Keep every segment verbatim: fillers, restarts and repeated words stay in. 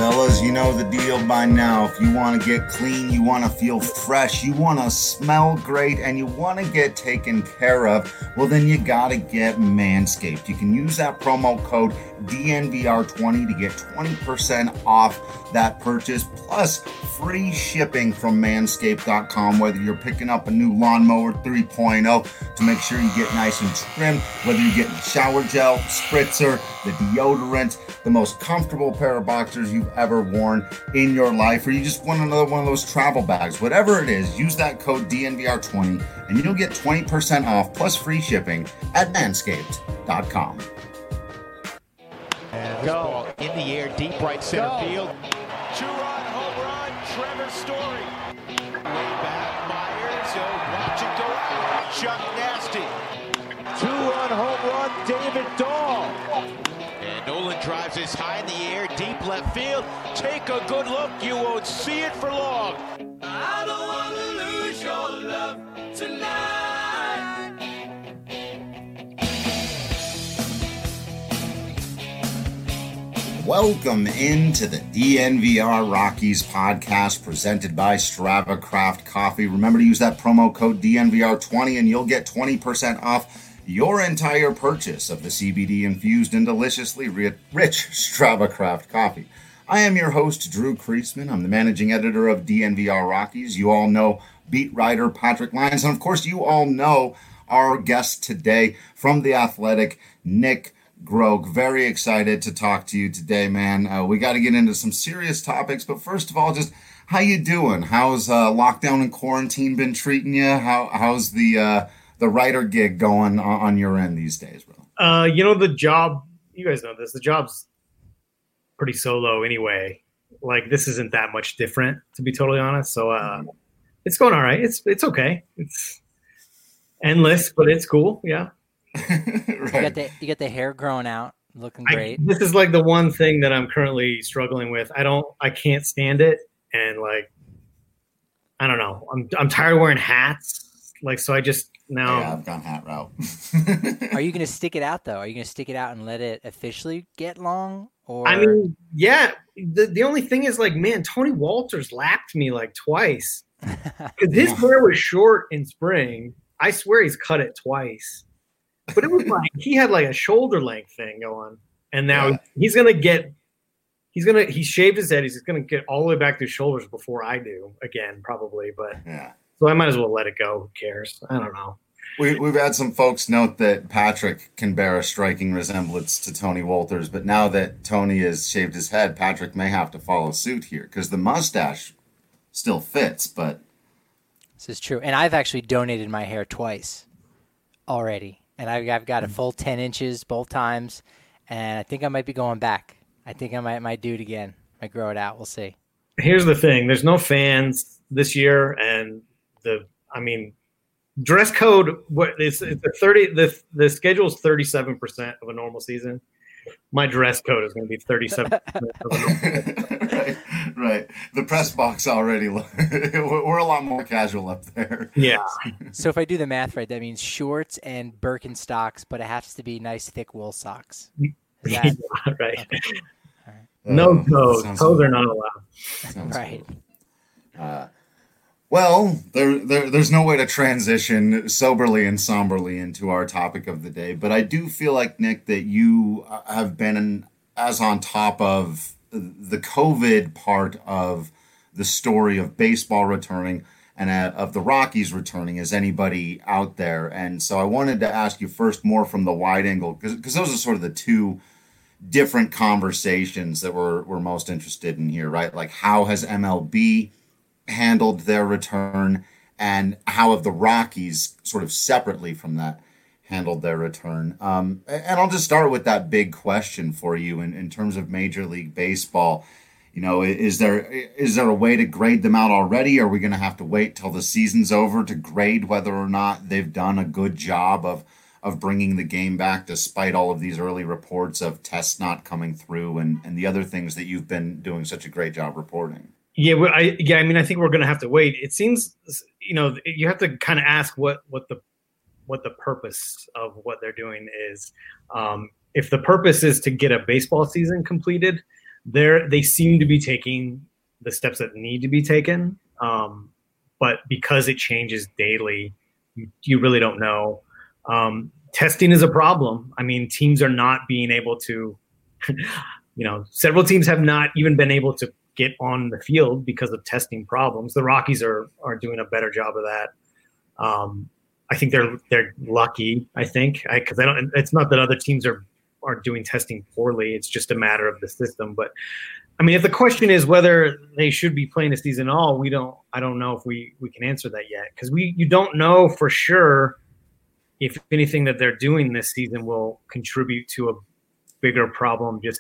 Fellas, you know the deal by now. If you want to get clean, you want to feel fresh, you want to smell great, and you want to get taken care of, well, then you got to get Manscaped. You can use that promo code D N V R twenty to get twenty percent off that purchase, plus free shipping from manscaped dot com, whether you're picking up a new lawnmower three point oh to make sure you get nice and trimmed, whether you're getting shower gel, spritzer, the deodorant, the most comfortable pair of boxers you've ever worn in your life, or you just want another one of those travel bags, whatever it is, use that code D N V R twenty and you'll get twenty percent off plus free shipping at manscaped dot com. And this ball in the air, deep right center Go. field. Two-run home run, Trevor Story. Way back, Myers, he'll watch it go out. Chuck Nasty. Two-run home run, David Dahl. And Nolan drives this high in the air, deep left field. Take a good look, you won't see it for long. I don't want to lose your love tonight. Welcome into the D N V R Rockies podcast presented by Strava Craft Coffee. Remember to use that promo code D N V R twenty and you'll get twenty percent off your entire purchase of the C B D-infused and deliciously rich Strava Craft Coffee. I am your host, Drew Kreisman. I'm the managing editor of D N V R Rockies. You all know beat writer Patrick Lyons. And of course, you all know our guest today from The Athletic, Nick Groke. Very excited to talk to you today, man. Uh, we got to get into some serious topics, but first of all, just how you doing? How's uh, lockdown and quarantine been treating you? How how's the uh, the writer gig going on, on your end these days, bro? Uh, you know, the job, you guys know this, the job's pretty solo anyway. Like, this isn't that much different, to be totally honest. So uh, it's going all right. It's it's okay. It's endless, but it's cool. Yeah. Right. You got the you got the hair growing out, looking great. I, this is like the one thing that I'm currently struggling with. I don't, I can't stand it, and like, I don't know. I'm I'm tired of wearing hats. Like, so I just now. Yeah, I've gone hat route. Are you gonna stick it out though? Are you gonna stick it out and let it officially get long? Or I mean, yeah. The the only thing is, like, man, Tony Walters lapped me like twice because his Yeah. hair was short in spring. I swear he's cut it twice. But it was like he had like a shoulder length thing going, and now Yeah. he's gonna get, he's gonna he shaved his head. He's gonna get all the way back to his shoulders before I do again, probably. But Yeah. so I might as well let it go. Who cares? I don't know. We, we've had some folks note that Patrick can bear a striking resemblance to Tony Walters, but now that Tony has shaved his head, Patrick may have to follow suit here because the mustache still fits. But this is true. And I've actually donated my hair twice already, and I've, I've got a full ten inches both times, and I think I might be going back. I think I might might do it again. Might grow it out. We'll see. Here's the thing: there's no fans this year, and the I mean. Dress code. What it's it's a thirty. The the schedule is thirty seven percent of a normal season. My dress code is going to be thirty seven percent of a normal season. right, right. The press box already. We're a lot more casual up there. Yeah. So if I do the math right, that means shorts and Birkenstocks, but it has to be nice thick wool socks. Is that, Yeah, right. okay. All right. No Uh, toes. sounds Toes good. are not allowed. Sounds Right. good. Uh, well, there, there, there's no way to transition soberly and somberly into our topic of the day, but I do feel like, Nick, that you have been as on top of the COVID part of the story of baseball returning and uh, of the Rockies returning as anybody out there. And so I wanted to ask you first more from the wide angle, because those are sort of the two different conversations that we're, we're most interested in here, right? Like, how has M L B handled their return, and how have the Rockies sort of separately from that handled their return? Um, and I'll just start with that big question for you in, in terms of Major League Baseball. You know, is there is there a way to grade them out already? Are we going to have to wait till the season's over to grade whether or not they've done a good job of of bringing the game back, despite all of these early reports of tests not coming through and, and the other things that you've been doing such a great job reporting? Yeah, well, I yeah, I mean, I think we're going to have to wait. It seems, you know, you have to kind of ask what what the what the purpose of what they're doing is. Um, if the purpose is to get a baseball season completed, they're they seem to be taking the steps that need to be taken. Um, but because it changes daily, you, you really don't know. Um, testing is a problem. I mean, teams are not being able to, you know, several teams have not even been able to get on the field because of testing problems. The Rockies are are doing a better job of that. Um, I think they're they're lucky. I think because I, I don't. It's not that other teams are are doing testing poorly. It's just a matter of the system. But I mean, if the question is whether they should be playing a season at all, we don't. I don't know if we we can answer that yet because we you don't know for sure if anything that they're doing this season will contribute to a bigger problem just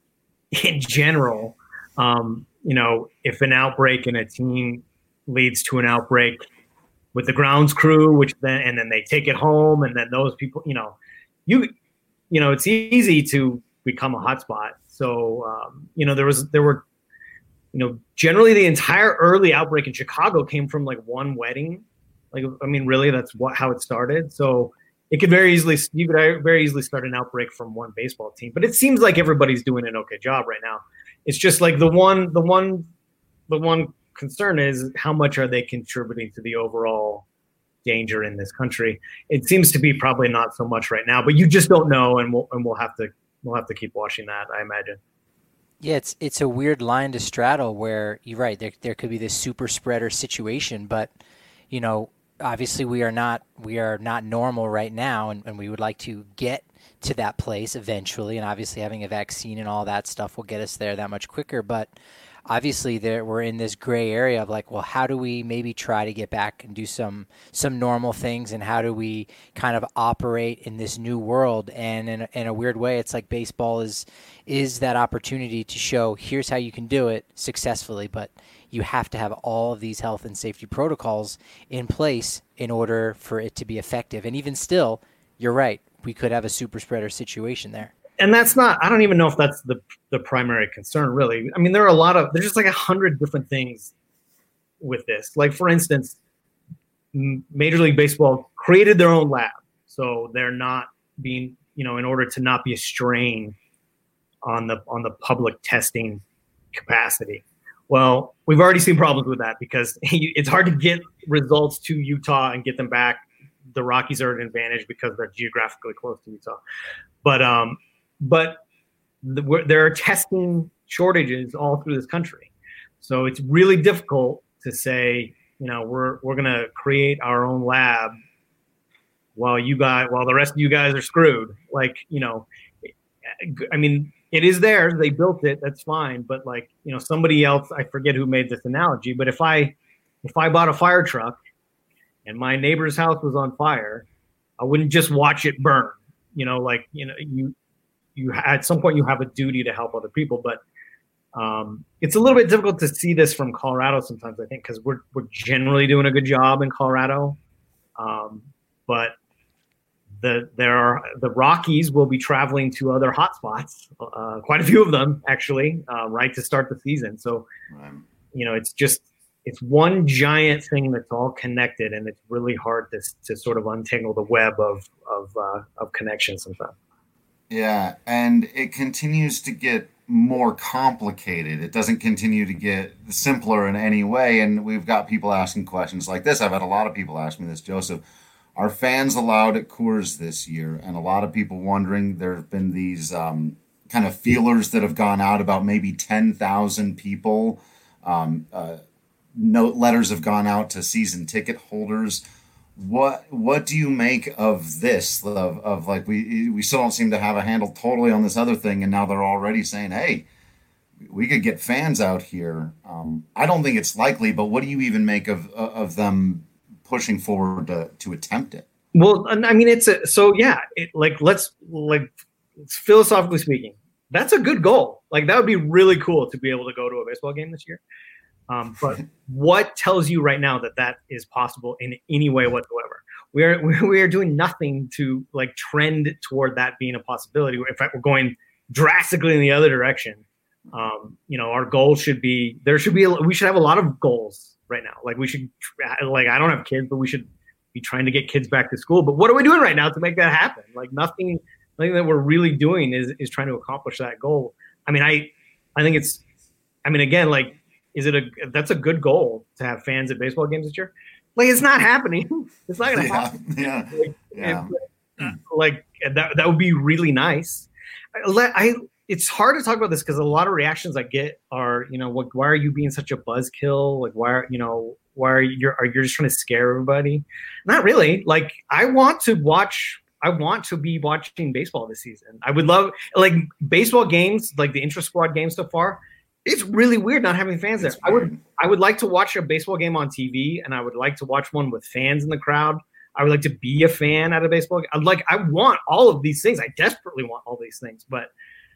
in general. Um, you know, if an outbreak in a team leads to an outbreak with the grounds crew, which then and then they take it home, and then those people, you know, you you know, it's easy to become a hotspot. So um, you know, there was there were, you know, generally the entire early outbreak in Chicago came from like one wedding. Like, I mean, really, that's what how it started. So it could very easily you could very easily start an outbreak from one baseball team. But it seems like everybody's doing an okay job right now. It's just like the one the one the one concern is how much are they contributing to the overall danger in this country. It seems to be probably not so much right now, but you just don't know, and we'll and we'll have to we'll have to keep watching that, I imagine. Yeah, it's it's a weird line to straddle where you're right, there there could be this super spreader situation, but you know, obviously we are not we are not normal right now, and, and we would like to get to that place eventually, and obviously having a vaccine and all that stuff will get us there that much quicker. But obviously there we're in this gray area of like, well, how do we maybe try to get back and do some some normal things, and how do we kind of operate in this new world? And in a, in a weird way, it's like baseball is is that opportunity to show here's how you can do it successfully, but you have to have all of these health and safety protocols in place in order for it to be effective. And even still, you're right, we could have a super spreader situation there. And that's not, I don't even know if that's the the primary concern, really. I mean, there are a lot of, there's just like a hundred different things with this. Like, for instance, Major League Baseball created their own lab. So they're not being, you know, in order to not be a strain on the on the public testing capacity. Well, we've already seen problems with that because it's hard to get results to Utah and get them back. The Rockies are at an advantage because they're geographically close to Utah. But um, but the, there are testing shortages all through this country. So it's really difficult to say, you know, we're we're going to create our own lab while you guys, while the rest of you guys are screwed. Like, you know, I mean, it is theirs. They built it. That's fine. But like, you know, somebody else, I forget who made this analogy, but if I if I bought a fire truck and my neighbor's house was on fire, I wouldn't just watch it burn. You know, like, you know, you, you at some point you have a duty to help other people, but um, it's a little bit difficult to see this from Colorado sometimes, I think, because we're, we're generally doing a good job in Colorado. Um, but the, there are, the Rockies will be traveling to other hotspots, uh, quite a few of them actually, uh, right to start the season. So, you know, it's just, it's one giant thing that's all connected, and it's really hard to to sort of untangle the web of of uh, of connections sometimes. Yeah, and it continues to get more complicated. It doesn't continue to get simpler in any way. And we've got people asking questions like this. I've had a lot of people ask me this, Joseph. Are fans allowed at Coors this year? And a lot of people wondering. There have been these um, kind of feelers that have gone out about maybe ten thousand people. Um, uh, Note letters have gone out to season ticket holders. What what do you make of this? Of, of like we we still don't seem to have a handle totally on this other thing, and now they're already saying, "Hey, we could get fans out here." Um, I don't think it's likely, but what do you even make of of them pushing forward to to attempt it? Well, I mean, it's a, so yeah. It, like let's like philosophically speaking, that's a good goal. Like that would be really cool to be able to go to a baseball game this year. Um, but what tells you right now that that is possible in any way whatsoever? We are we are doing nothing to like trend toward that being a possibility. In fact, we're going drastically in the other direction. Um, you know, our goal should be there should be a, we should have a lot of goals right now. Like we should like I don't have kids, but we should be trying to get kids back to school. But what are we doing right now to make that happen? Like nothing, nothing that we're really doing is is trying to accomplish that goal. I mean, I. I think it's, I mean, again, like, is it a, that's a good goal to have fans at baseball games this year? Like, it's not happening. It's not going to Yeah, happen. yeah, Like, yeah. if- like that, that would be really nice. I, let- I it's hard to talk about this because a lot of reactions I get are, you know, what, why are you being such a buzzkill? Like, why are, you know, why are you, are you just trying to scare everybody? Not really. Like, I want to watch, I want to be watching baseball this season. I would love, like, baseball games, like the intra-squad games so far. It's really weird not having fans there. It's I would, weird. I would like to watch a baseball game on T V, and I would like to watch one with fans in the crowd. I would like to be a fan at a baseball game. I'd like, I want all of these things. I desperately want all these things, but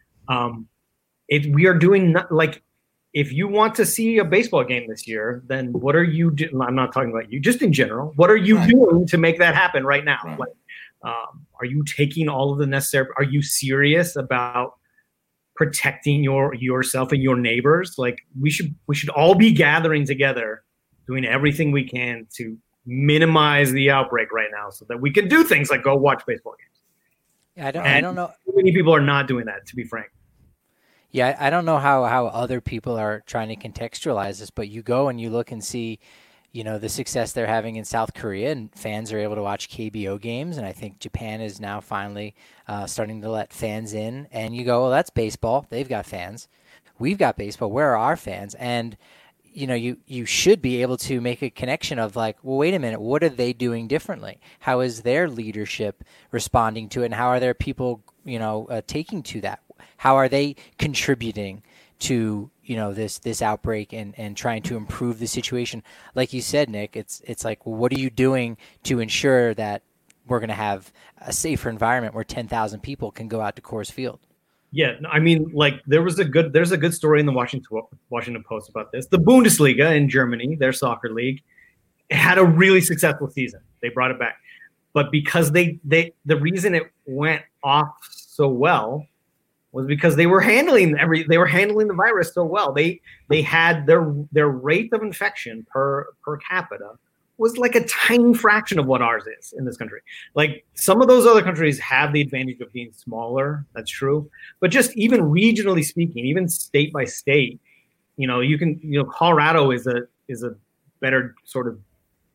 um, it, we are doing not, like, if you want to see a baseball game this year, then what are you doing? I'm not talking about you, just in general. What are you Right. doing to make that happen right now? Right. Like, um, are you taking all of the necessary? Are you serious about protecting your yourself and your neighbors? Like, we should we should all be gathering together, doing everything we can to minimize the outbreak right now, so that we can do things like go watch baseball games. I don't. And I don't know. too many people are not doing that, to be frank. Yeah, I don't know how, how other people are trying to contextualize this, but you go and you look and see, you know, the success they're having in South Korea, and fans are able to watch K B O games, and I think Japan is now finally uh, starting to let fans in. And you go, well, that's baseball. They've got fans. We've got baseball. Where are our fans? And you know, you, you should be able to make a connection of like, well, wait a minute, what are they doing differently? How is their leadership responding to it? And how are their people, you know, uh, taking to that? How are they contributing to, you know, this, this outbreak and, and trying to improve the situation? Like you said, Nick, it's, it's like, well, what are you doing to ensure that we're going to have a safer environment where ten thousand people can go out to Coors Field? Yeah, I mean, like there was a good there's a good story in the Washington Washington Post about this. The Bundesliga in Germany, their soccer league, had a really successful season. They brought it back, but because they they the reason it went off so well was because they were handling every they were handling the virus so well. They they had their their rate of infection per per capita was like a tiny fraction of what ours is in this country. Like some of those other countries have the advantage of being smaller. That's true. But just even regionally speaking, even state by state, you know, you can, you know, Colorado is a, is a better sort of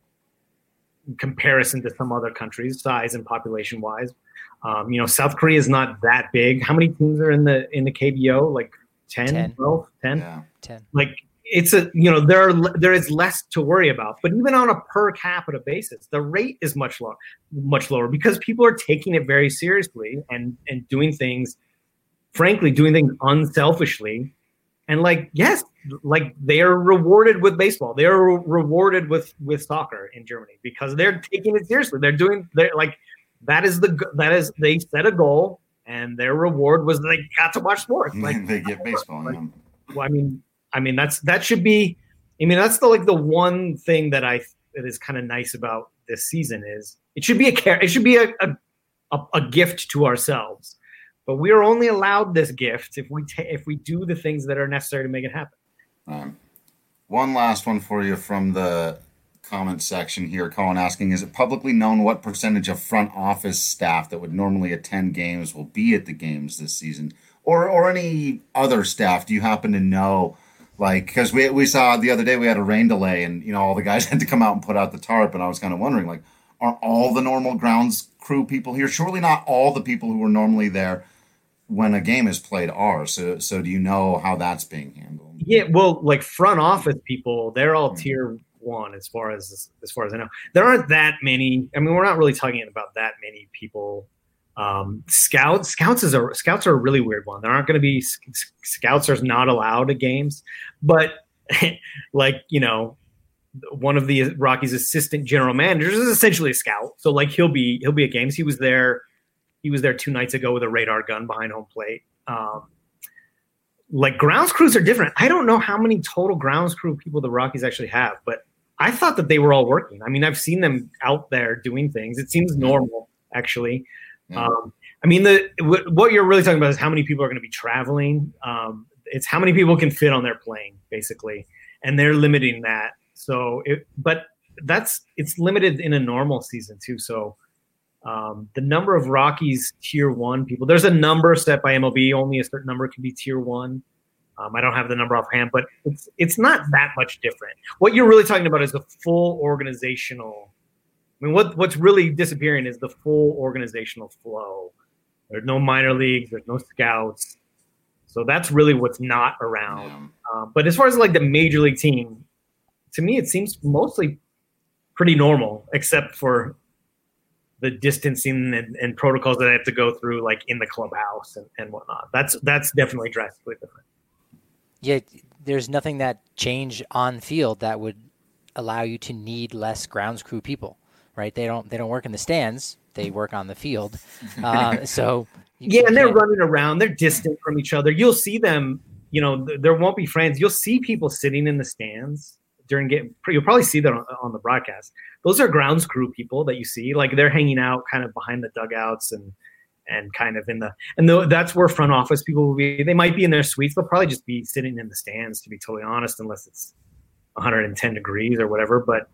comparison to some other countries, size and population wise. Um, you know, South Korea is not that big. How many teams are in the, in the K B O? Like ten, ten. twelve, ten? Yeah. ten. Like, it's a, you know, there are, there is less to worry about, but even on a per capita basis, the rate is much lower, much lower because people are taking it very seriously and, and doing things, frankly, doing things unselfishly. And like, yes, like they are rewarded with baseball. They are re- rewarded with, with soccer in Germany because they're taking it seriously. They're doing, they're like, that is the, that is, they set a goal and their reward was they got to watch sports. Like They get baseball. like, Yeah. well, I mean, I mean, that's that should be. I mean, that's the like the one thing that I that is kind of nice about this season is it should be a care. It should be a, a a a gift to ourselves. But we are only allowed this gift if we ta- if we do the things that are necessary to make it happen. Um, one last one for you from the comment section here. Colin asking, is it publicly known what percentage of front office staff that would normally attend games will be at the games this season, or or any other staff? Do you happen to know? Like, because we we saw the other day we had a rain delay, and you know all the guys had to come out and put out the tarp, and I was kind of wondering, like, are all the normal grounds crew people here? Surely not all the people who are normally there when a game is played are. So so do you know how that's being handled? Yeah, well, like front office people, they're all tier one as far as as far as I know. There aren't that many. I mean, we're not really talking about that many people. Um, scouts, scouts is a scouts are a really weird one. There aren't going to be scouts are not allowed at games, but like, you know, one of the Rockies' assistant general managers is essentially a scout. So like he'll be he'll be at games. He was there. He was there two nights ago with a radar gun behind home plate. Um, like grounds crews are different. I don't know how many total grounds crew people the Rockies actually have, but I thought that they were all working. I mean, I've seen them out there doing things. It seems normal, actually. Yeah. Um, I mean, the w- what you're really talking about is how many people are going to be traveling. Um, it's how many people can fit on their plane, basically, and they're limiting that. So, it, but that's it's limited in a normal season too. So, um, the number of Rockies tier one people, there's a number set by M L B. Only a certain number can be tier one. Um, I don't have the number offhand, but it's it's not that much different. What you're really talking about is the full organizational. I mean, what what's really disappearing is the full organizational flow. There's no minor leagues. There's no scouts. So that's really what's not around. Yeah. Um, but as far as like the major league team, to me, it seems mostly pretty normal, except for the distancing and, and protocols that I have to go through, like in the clubhouse and, and whatnot. That's that's definitely drastically different. Yeah, there's nothing that changed on field that would allow you to need less grounds crew people, right? They don't they don't work in the stands; they work on the field. Uh, so yeah, and they're running around. They're distant from each other. You'll see them. You know, th- there won't be friends. You'll see people sitting in the stands during game. You'll probably see that on, on the broadcast. Those are grounds crew people that you see. Like they're hanging out kind of behind the dugouts and and kind of in the and the, that's where front office people will be. They might be in their suites. They'll probably just be sitting in the stands, to be totally honest, unless it's one hundred ten degrees or whatever. But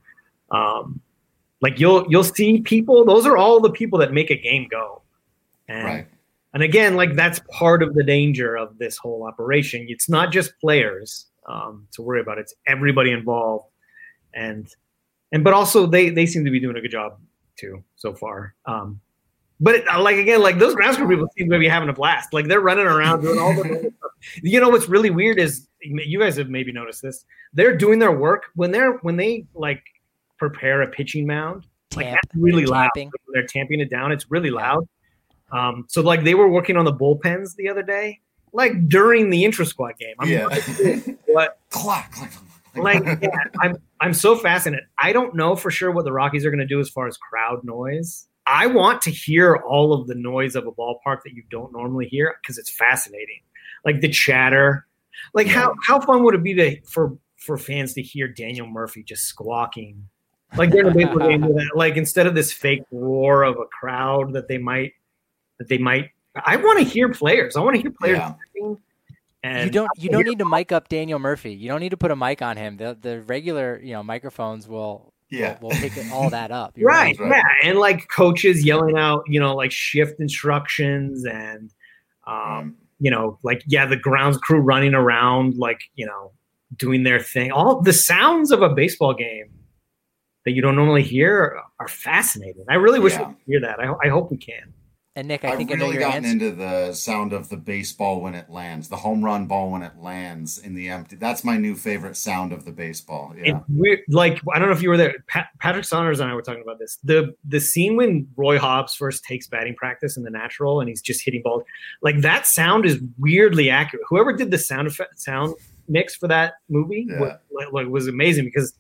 um, like you'll you'll see people. Those are all the people that make a game go. And, right. And again, like that's part of the danger of this whole operation. It's not just players um, to worry about. It's everybody involved, and and but also they they seem to be doing a good job too so far. Um, But it, like again, like those ground crew people seem to be having a blast. Like they're running around doing all the stuff. You know what's really weird is you guys have maybe noticed this. They're doing their work when they're when they like prepare a pitching mound. Like Tamp, that's really they're loud. tamping. Like, when they're tamping it down. It's really loud. Um, so like they were working on the bullpens the other day, like during the intra squad game. I'm Yeah. like, what? Clack, clack, clack. Like yeah, I'm I'm so fascinated. I don't know for sure what the Rockies are going to do as far as crowd noise. I want to hear all of the noise of a ballpark that you don't normally hear because it's fascinating. Like the chatter. Like Yeah. how, how fun would it be to for, for fans to hear Daniel Murphy just squawking? Like during a baseball game, with that, like instead of this fake roar of a crowd that they might that they might I want to hear players. I want to hear players Yeah. talking. And You don't you don't need to mic up Daniel Murphy. You don't need to put a mic on him. The the regular, you know, microphones will Yeah. will, will pick it- all that up. You're Right, right. yeah, and like coaches yelling out, you know, like shift instructions and, um, you know, like yeah, the grounds crew running around, like you know, doing their thing. All the sounds of a baseball game that you don't normally hear are, are fascinating. I really wish Yeah. we could hear that. I, I hope we can. And Nick, I I've think I know really your gotten answer. into the sound of the baseball when it lands, the home run ball when it lands in the empty. That's my new favorite sound of the baseball. Yeah. It's weird. Like I don't know if you were there. Pat, Patrick Saunders and I were talking about this. The the scene when Roy Hobbs first takes batting practice in the natural and he's just hitting balls, like that sound is weirdly accurate. Whoever did the sound effect, sound mix for that movie Yeah. was, like, like, was amazing because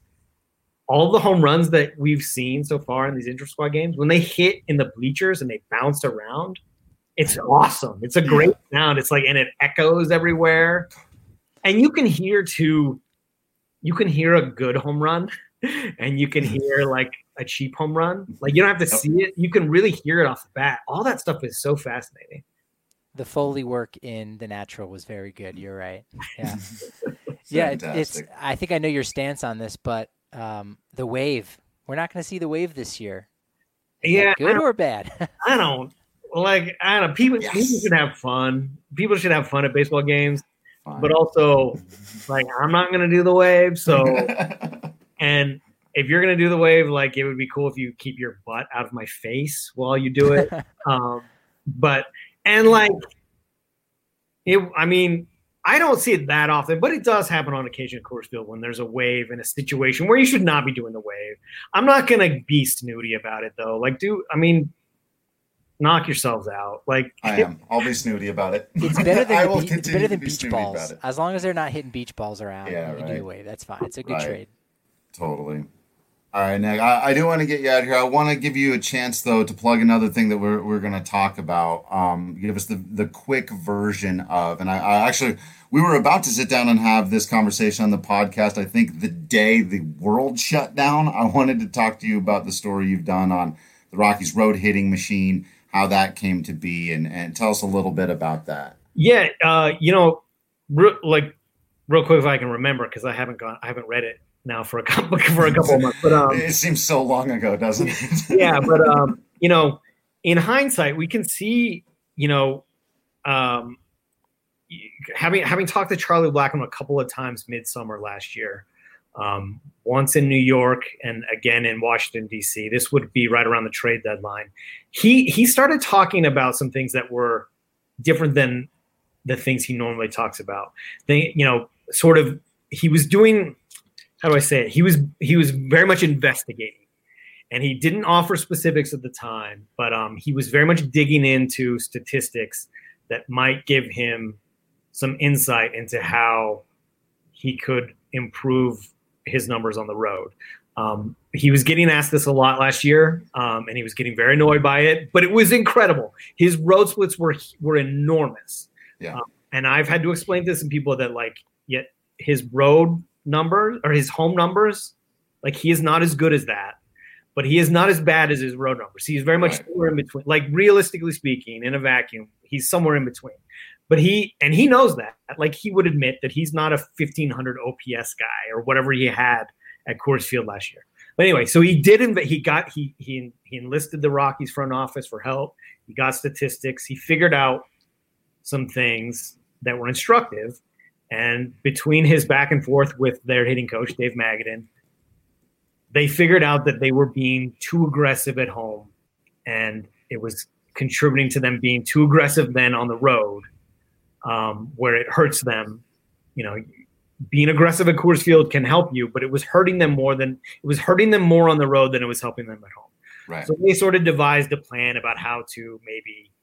all the home runs that we've seen so far in these inter squad games, when they hit in the bleachers and they bounce around, it's awesome. It's a great sound. It's like, and it echoes everywhere. And you can hear too, you can hear a good home run and you can hear like a cheap home run. Like you don't have to see it. You can really hear it off the bat. All that stuff is so fascinating. The Foley work in The Natural was very good. You're right. Yeah. yeah. It, it's, Fantastic. I think I know your stance on this, but um, the wave, we're not going to see the wave this year. Is Yeah. that I good don't- or bad? I don't like, I don't know. People, Yes. people should have fun. People should have fun at baseball games, Fine. but also like, I'm not going to do the wave. So, and if you're going to do the wave, like it would be cool if you keep your butt out of my face while you do it. um, but, and like, it, I mean, I don't see it that often, but it does happen on occasion at Coors Field when there's a wave in a situation where you should not be doing the wave. I'm not going to be snooty about it though. Like, do, I mean, knock yourselves out. Like, I am. I'll be snooty about it. It's better I than, will the be- it's continue better to than be beach snooty about balls. it. As long as they're not hitting beach balls around, Yeah, you can do right. the wave. That's fine. It's a good Right. trade. Totally. All right, Nick. I, I do want to get you out of here. I want to give you a chance, though, to plug another thing that we're we're going to talk about. Um, give us the the quick version of, and I, I actually we were about to sit down and have this conversation on the podcast. I think the day the world shut down, I wanted to talk to you about the story you've done on the Rockies road hitting machine, how that came to be, and and tell us a little bit about that. yeah, uh, you know, re- like real quick if I can remember because I haven't gone, I haven't read it now for a couple for a couple of months. But um, It seems so long ago, doesn't it? yeah, but um, you know, in hindsight, we can see, you know, um, having having talked to Charlie Blackmon a couple of times midsummer last year, um, once in New York and again in Washington, D C, this would be right around the trade deadline. He he started talking about some things that were different than the things he normally talks about. They, you know, sort of he was doing, how do I say it? He was he was very much investigating. And he didn't offer specifics at the time, but um, he was very much digging into statistics that might give him some insight into how he could improve his numbers on the road. Um, he was getting asked this a lot last year, um, and he was getting very annoyed by it, but it was incredible. His road splits were were enormous. Yeah. Um, and I've had to explain to some people that, like, yet his road numbers or his home numbers, like, he is not as good as that. But he is not as bad as his road numbers. He's very much Right. somewhere in between. Like, realistically speaking, in a vacuum, he's somewhere in between. But he and he knows that. Like, he would admit that he's not a fifteen hundred O P S guy or whatever he had at Coors Field last year. But anyway, so he did. Inv- he got he he he enlisted the Rockies front office for help. He got statistics. He figured out some things that were instructive. And between his back and forth with their hitting coach, Dave Magadan, they figured out that they were being too aggressive at home, and it was contributing to them being too aggressive then on the road, um, where it hurts them. You know, being aggressive at Coors Field can help you, but it was hurting them more than it was hurting them more on the road than it was helping them at home. Right. So they sort of devised a plan about how to maybe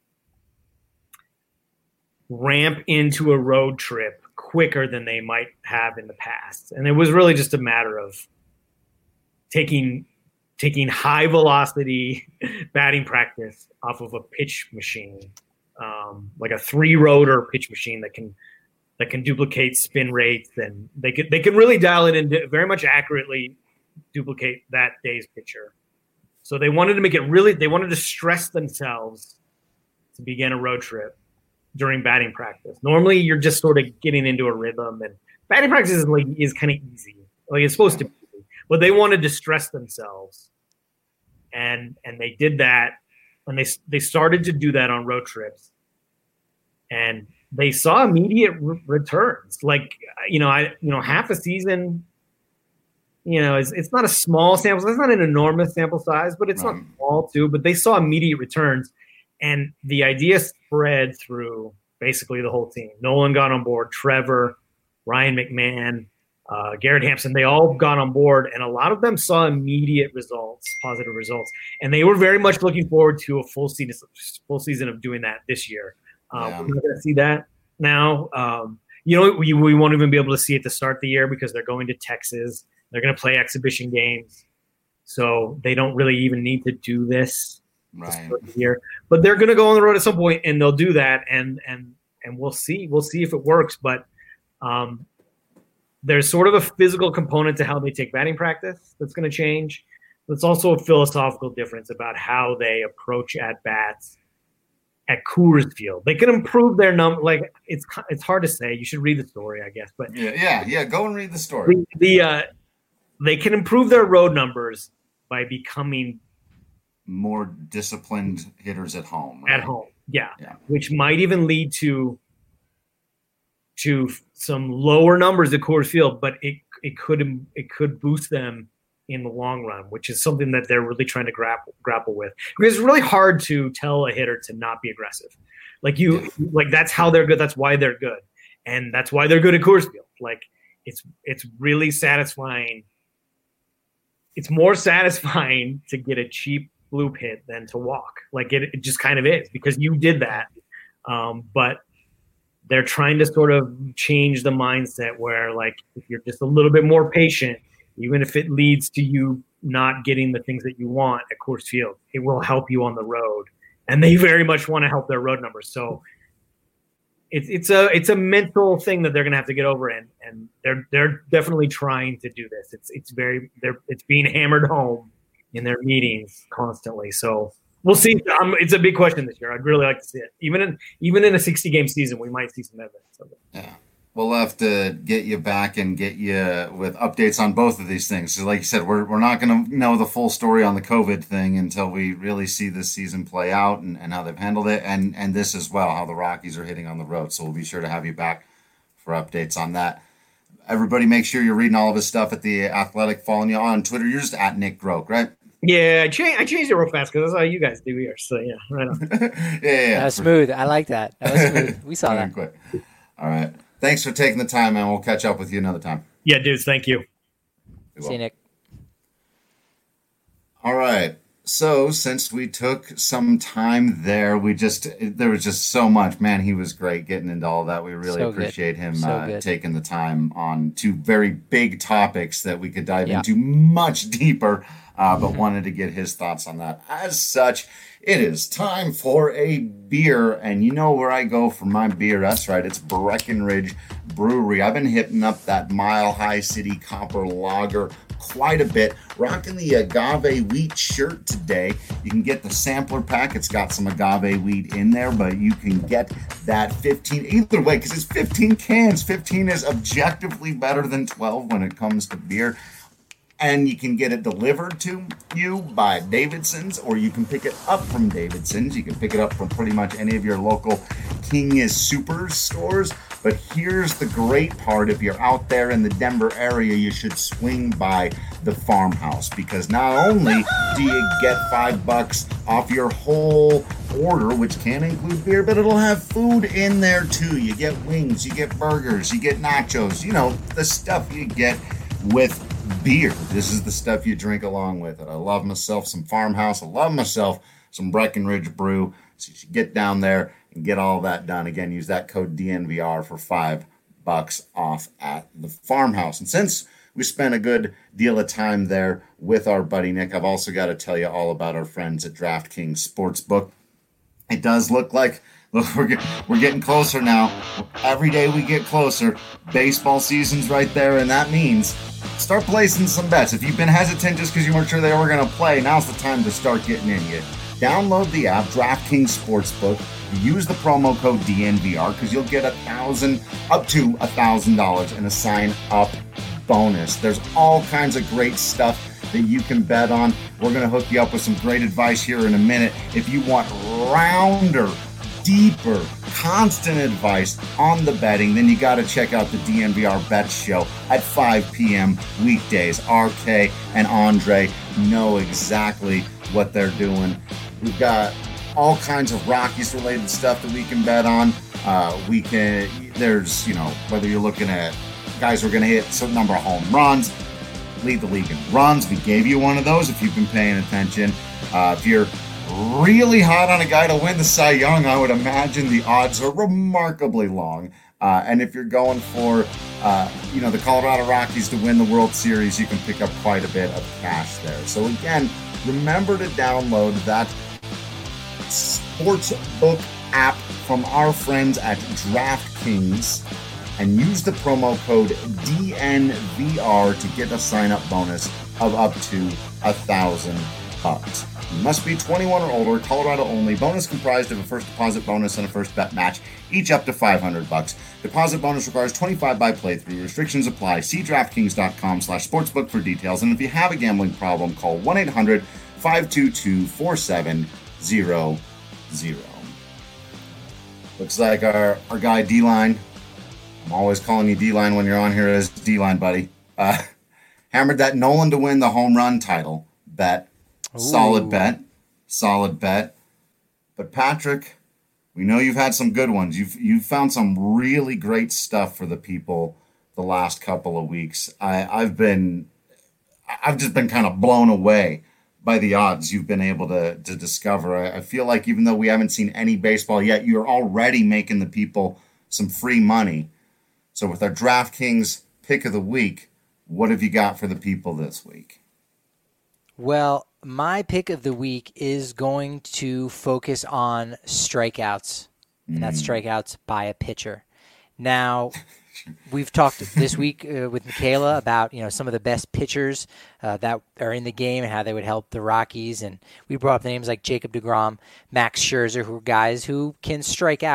ramp into a road trip quicker than they might have in the past. And it was really just a matter of taking taking high velocity batting practice off of a pitch machine, um, like a three rotor pitch machine that can that can duplicate spin rates, and they can they can really dial it in very much accurately duplicate that day's pitcher. So they wanted to make it really they wanted to stress themselves to begin a road trip during batting practice. Normally you're just sort of getting into a rhythm, and batting practice is like is kind of easy. Like it's supposed to be. But they wanted to stress themselves, and and they did that, and they they started to do that on road trips, and they saw immediate re- returns. Like you know, I you know half a season, you know, it's it's not a small sample. It's not an enormous sample size, but it's Right. not small too. But they saw immediate returns, and the idea spread through basically the whole team. Nolan got on board. Trevor, Ryan McMahon. Uh, Garrett Hampson, they all got on board, and a lot of them saw immediate results, positive results, and they were very much looking forward to a full season, full season of doing that this year. Um, Yeah. We're not going to see that now. Um, you know, we, we won't even be able to see it to start the year because they're going to Texas. They're going to play exhibition games, so they don't really even need to do this to Right. start the year. But they're going to go on the road at some point, and they'll do that, and and and we'll see. We'll see if it works, but. Um, There's sort of a physical component to how they take batting practice that's going to change. It's also a philosophical difference about how they approach at bats at Coors Field. They can improve their number. Like it's it's hard to say. You should read the story, I guess. But Yeah, yeah, yeah. Go and read the story. the, the uh, they can improve their road numbers by becoming More disciplined hitters at home. Right? at home. Yeah. Yeah. Which might even lead to to some lower numbers at Coors Field, but it it could it could boost them in the long run, which is something that they're really trying to grapple grapple with. Because it's really hard to tell a hitter to not be aggressive. Like you, Yeah. like that's how they're good. That's why they're good, and that's why they're good at Coors Field. Like it's it's really satisfying. It's more satisfying to get a cheap bloop hit than to walk. Like it, it just kind of is because you did that, um, but. They're trying to sort of change the mindset where, like, if you're just a little bit more patient, even if it leads to you not getting the things that you want at Coors Field, it will help you on the road. And they very much want to help their road numbers. So it's it's a it's a mental thing that they're going to have to get over, and and they're they're definitely trying to do this. It's it's very they're it's being hammered home in their meetings constantly. So. We'll see. Um, it's a big question this year. I'd really like to see it. Even in even in a sixty game season, we might see some evidence of it. Yeah. we'll have to get you back and get you with updates on both of these things. So like you said, we're, we're not going to know the full story on the COVID thing until we really see this season play out and, and how they've handled it. And, and this as well, how the Rockies are hitting on the road. So we'll be sure to have you back for updates on that. Everybody make sure you're reading all of his stuff at The Athletic, following you on Twitter. You're just at Nick Groke, right? Yeah, I, cha- I changed it real fast because that's how you guys do here. So, yeah, right on. yeah, yeah, yeah. That was smooth. I like that. That was smooth. We saw that. Quick. All right. Thanks for taking the time, man. We'll catch up with you another time. Yeah, dudes, thank you. See you, Nick. All right. So since we took some time there, we just there was just so much. Man, he was great getting into all that. We really So appreciate good. him So uh, good. taking the time on two very big topics that we could dive Yeah. into much deeper, uh, but wanted to get his thoughts on that. As such, it is time for a beer, and you know where I go for my beer. That's right, it's Breckenridge Brewery. I've been hitting up that Mile High City Copper Lager quite a bit, rocking the agave wheat shirt today. You can get the sampler pack. It's got some agave wheat in there, but you can get that fifteen either way because it's fifteen cans. fifteen is objectively better than twelve when it comes to beer. And you can get it delivered to you by Davidson's, or you can pick it up from Davidson's. You can pick it up from pretty much any of your local King is Super stores. But here's the great part. If you're out there in the Denver area, you should swing by the Farmhouse, because not only do you get five bucks off your whole order, which can include beer, but it'll have food in there too. You get wings, you get burgers, you get nachos, you know, the stuff you get with beer. This is the stuff you drink along with it. I love myself some Farmhouse. I love myself some Breckenridge Brew. So you should get down there and get all that done. Again, use that code D N V R for five bucks off at the Farmhouse. And since we spent a good deal of time there with our buddy Nick, I've also got to tell you all about our friends at DraftKings Sportsbook. It does look like look, we're, get, we're getting closer now. Every day we get closer. Baseball season's right there, and that means start placing some bets. If you've been hesitant just because you weren't sure they were going to play, now's the time to start getting in. You download the app, DraftKings Sportsbook. Use the promo code D N V R because you'll get a thousand, up to a thousand dollars in a sign-up bonus. There's all kinds of great stuff that you can bet on. We're going to hook you up with some great advice here in a minute. If you want rounder, deeper, constant advice on the betting, then you got to check out the D N V R Bet Show at five p.m. weekdays. R K and Andre know exactly what they're doing. We've got all kinds of Rockies related stuff that we can bet on. Uh, we can, there's, you know, whether you're looking at guys who are going to hit a certain number of home runs, lead the league in runs. We gave you one of those if you've been paying attention. Uh, if you're really hot on a guy to win the Cy Young, I would imagine the odds are remarkably long. Uh, and if you're going for, uh, you know, the Colorado Rockies to win the World Series, you can pick up quite a bit of cash there. So again, remember to download that Sportsbook app from our friends at DraftKings and use the promo code D N V R to get a sign-up bonus of up to a thousand bucks. You must be twenty-one or older, Colorado only. Bonus comprised of a first deposit bonus and a first bet match, each up to five hundred bucks. Deposit bonus requires twenty-five by playthrough. Restrictions apply. See DraftKings.com slash sportsbook for details. And if you have a gambling problem, call one eight hundred five two two four seven zero zero. Looks like our, our guy D-Line, I'm always calling you D-Line when you're on here as D-Line, buddy, uh, hammered that Nolan to win the home run title bet. Ooh. Solid bet. Solid bet. But Patrick, we know you've had some good ones. You've you've found some really great stuff for the people the last couple of weeks. I, I've been I've just been kind of blown away by the odds you've been able to, to discover. I, I feel like even though we haven't seen any baseball yet, you're already making the people some free money. So with our DraftKings pick of the week, what have you got for the people this week? Well, my pick of the week is going to focus on strikeouts, and that's strikeouts by a pitcher. Now, we've talked this week uh, with Michaela about, you know, some of the best pitchers uh, that are in the game and how they would help the Rockies, and we brought up names like Jacob deGrom, Max Scherzer, who are guys who can strike out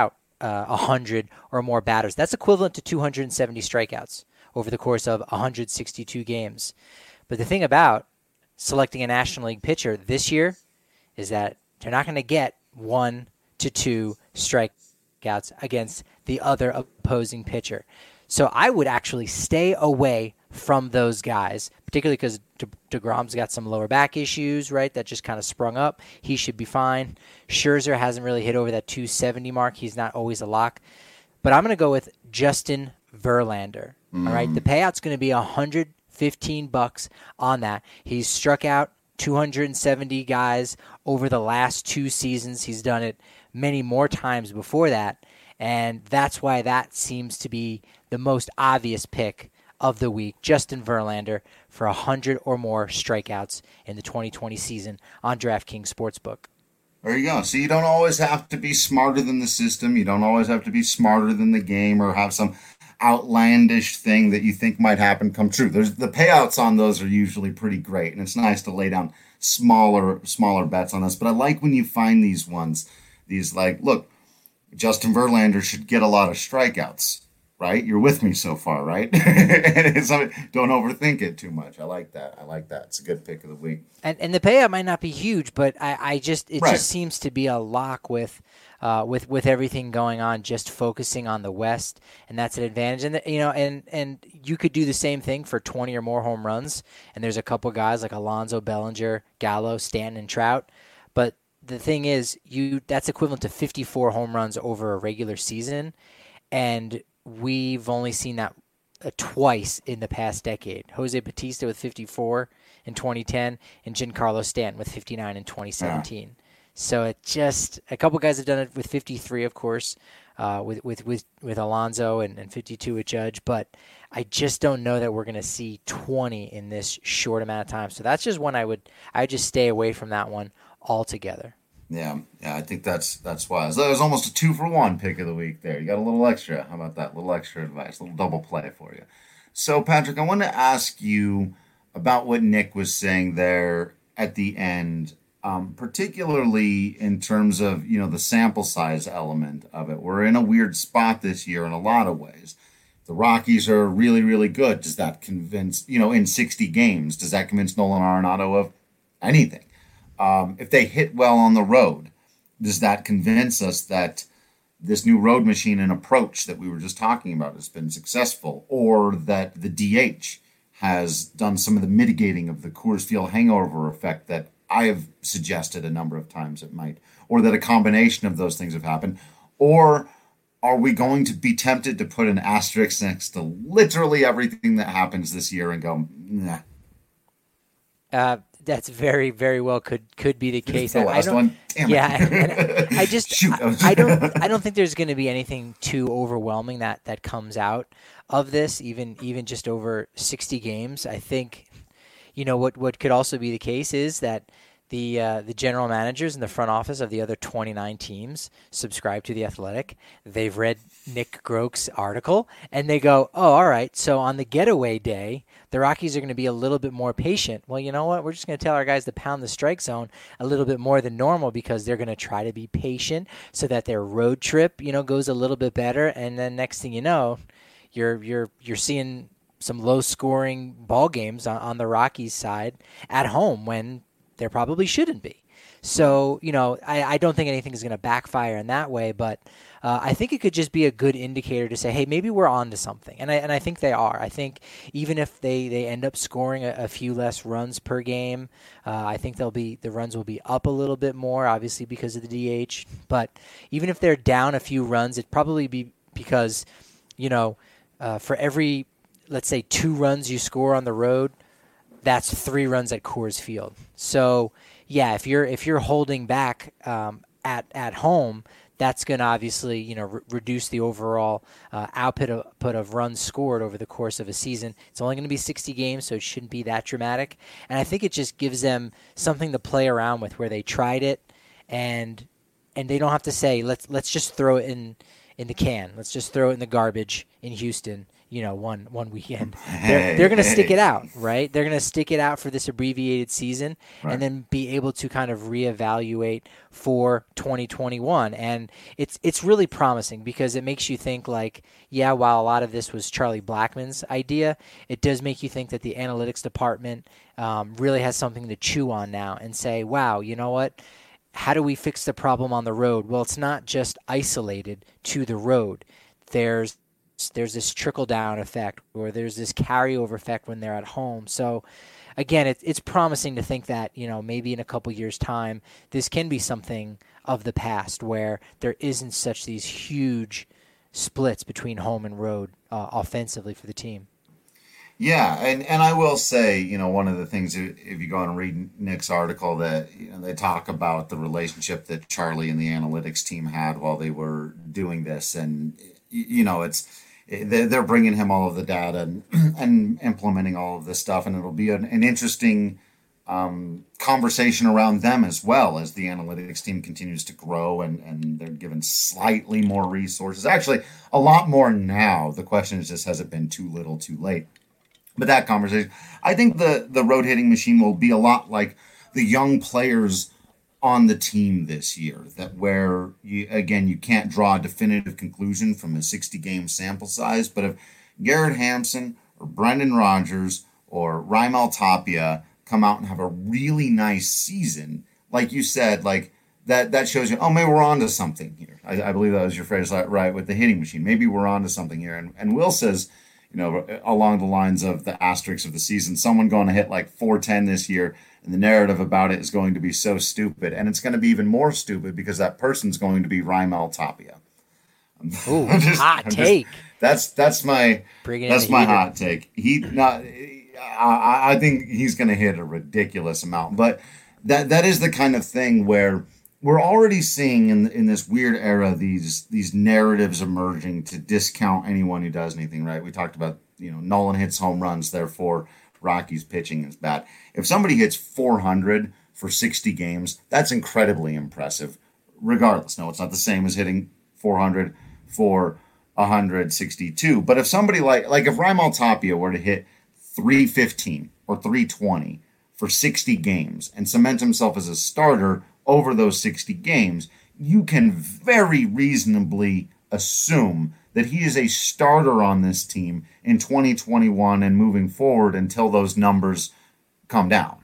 uh, one hundred or more batters. That's equivalent to two hundred seventy strikeouts over the course of one hundred sixty-two games. But the thing about selecting a National League pitcher this year is that they're not going to get one to two strikeouts against the other opposing pitcher. So I would actually stay away from those guys, particularly because De- DeGrom's got some lower back issues, right, that just kind of sprung up. He should be fine. Scherzer hasn't really hit over that two seventy mark. He's not always a lock. But I'm going to go with Justin Verlander. Mm. All right, the payout's going to be one hundred fifteen bucks on that. He's struck out two hundred seventy guys over the last two seasons. He's done it many more times before that, and that's why that seems to be the most obvious pick of the week. Justin Verlander for one hundred or more strikeouts in the twenty twenty season on DraftKings Sportsbook. There you go. So you don't always have to be smarter than the system. You don't always have to be smarter than the game or have some outlandish thing that you think might happen come true. There's the payouts on those are usually pretty great, and it's nice to lay down smaller smaller bets on this. But I like when you find these ones, these like, look, Justin Verlander should get a lot of strikeouts, right? You're with me so far, right? And it's, don't overthink it too much. I like that. I like that. It's a good pick of the week. And and the payout might not be huge, but I, I just it right. just seems to be a lock with. Uh, with with everything going on, just focusing on the West, and that's an advantage. And the, you know, and and you could do the same thing for twenty or more home runs. And there's a couple guys like Alonso, Bellinger, Gallo, Stanton, and Trout. But the thing is, you that's equivalent to fifty-four home runs over a regular season, and we've only seen that uh, twice in the past decade. Jose Bautista with fifty-four in twenty ten, and Giancarlo Stanton with fifty-nine in twenty seventeen. Yeah. So it just a couple guys have done it with fifty-three, of course, uh, with with with with Alonso and, and fifty-two with Judge. But I just don't know that we're going to see twenty in this short amount of time. So that's just one I would I would just stay away from that one altogether. Yeah, yeah, I think that's that's wise. That was almost a two for one pick of the week there. You got a little extra. How about that? A little extra advice, a little double play for you. So Patrick, I want to ask you about what Nick was saying there at the end. Um, particularly in terms of, you know, the sample size element of it. We're in a weird spot this year in a lot of ways. The Rockies are really, really good. Does that convince, you know, in sixty games, does that convince Nolan Arenado of anything? Um, if they hit well on the road, does that convince us that this new road machine and approach that we were just talking about has been successful, or that the D H has done some of the mitigating of the Coors Field hangover effect that I have suggested a number of times it might, or that a combination of those things have happened? Or are we going to be tempted to put an asterisk next to literally everything that happens this year and go, nah? Uh, that's very, very well could could be the case. The last I don't, one? Damn yeah, it. I, I just Shoot, I, I don't I don't think there's going to be anything too overwhelming that, that comes out of this, even even just over sixty games. I think, you know, what, what could also be the case is that the uh, the general managers in the front office of the other twenty-nine teams subscribe to The Athletic. They've read Nick Groke's article, and they go, oh, all right, so on the getaway day, the Rockies are going to be a little bit more patient. Well, you know what? We're just going to tell our guys to pound the strike zone a little bit more than normal because they're going to try to be patient so that their road trip, you know, goes a little bit better. And then next thing you know, you're you're you're seeing some low-scoring ball games on, on the Rockies side at home when there probably shouldn't be. So, you know, I, I don't think anything is going to backfire in that way, but uh, I think it could just be a good indicator to say, hey, maybe we're on to something. And I and I think they are. I think even if they, they end up scoring a, a few less runs per game, uh, I think they'll be the runs will be up a little bit more, obviously because of the D H. But even if they're down a few runs, it'd probably be because, you know, uh, for every, let's say, two runs you score on the road, that's three runs at Coors Field. So, yeah, if you're if you're holding back um, at at home, that's going to obviously, you know, re- reduce the overall uh, output of, output of runs scored over the course of a season. It's only going to be sixty games, so it shouldn't be that dramatic. And I think it just gives them something to play around with, where they tried it, and and they don't have to say let's let's just throw it in in the can. Let's just throw it in the garbage in Houston. you know, one one weekend. Hey, they're they're going to hey. stick it out, right? They're going to stick it out for this abbreviated season, Right. and then be able to kind of reevaluate for twenty twenty-one. And it's it's really promising because it makes you think like, yeah, while a lot of this was Charlie Blackmon's idea, it does make you think that the analytics department um, really has something to chew on now and say, wow, you know what? How do we fix the problem on the road? Well, it's not just isolated to the road. There's there's this trickle-down effect, or there's this carryover effect when they're at home. So, again, it, it's promising to think that, you know, maybe in a couple years' time, this can be something of the past where there isn't such these huge splits between home and road uh, offensively for the team. Yeah, and, and I will say, you know, one of the things, if you go and read Nick's article, that you know, they talk about the relationship that Charlie and the analytics team had while they were doing this. And, you know, it's they're bringing him all of the data and, and implementing all of this stuff. And it'll be an, an interesting um, conversation around them as well as the analytics team continues to grow and, and they're given slightly more resources. Actually, a lot more now. The question is just, has it been too little, too late? But that conversation, I think the, the road hitting machine will be a lot like the young players on the team this year, that where, you, again, you can't draw a definitive conclusion from a sixty game sample size. But if Garrett Hampson or Brendan Rodgers or Raimel Tapia come out and have a really nice season, like you said, like that, that shows you, oh, maybe we're on to something here. I, I believe that was your phrase, right, with the hitting machine. Maybe we're on to something here. And, and Will says, you know, along the lines of the asterisks of the season, someone going to hit like four ten this year, and the narrative about it is going to be so stupid. And it's going to be even more stupid because that person's going to be Raimel Tapia. Ooh, just, hot just, take. that's that's my Bring it that's in my heated. hot take. He not I, I think he's going to hit a ridiculous amount, but that that is the kind of thing where we're already seeing in in this weird era these these narratives emerging to discount anyone who does anything right. We talked about, you know, Nolan hits home runs, therefore Rocky's pitching is bad. If somebody hits four hundred for sixty games, that's incredibly impressive. Regardless, no, it's not the same as hitting four hundred for one hundred sixty-two. But if somebody like like if Raimel Tapia were to hit three fifteen or three twenty for sixty games and cement himself as a starter over those sixty games, you can very reasonably assume that he is a starter on this team in twenty twenty-one and moving forward until those numbers come down.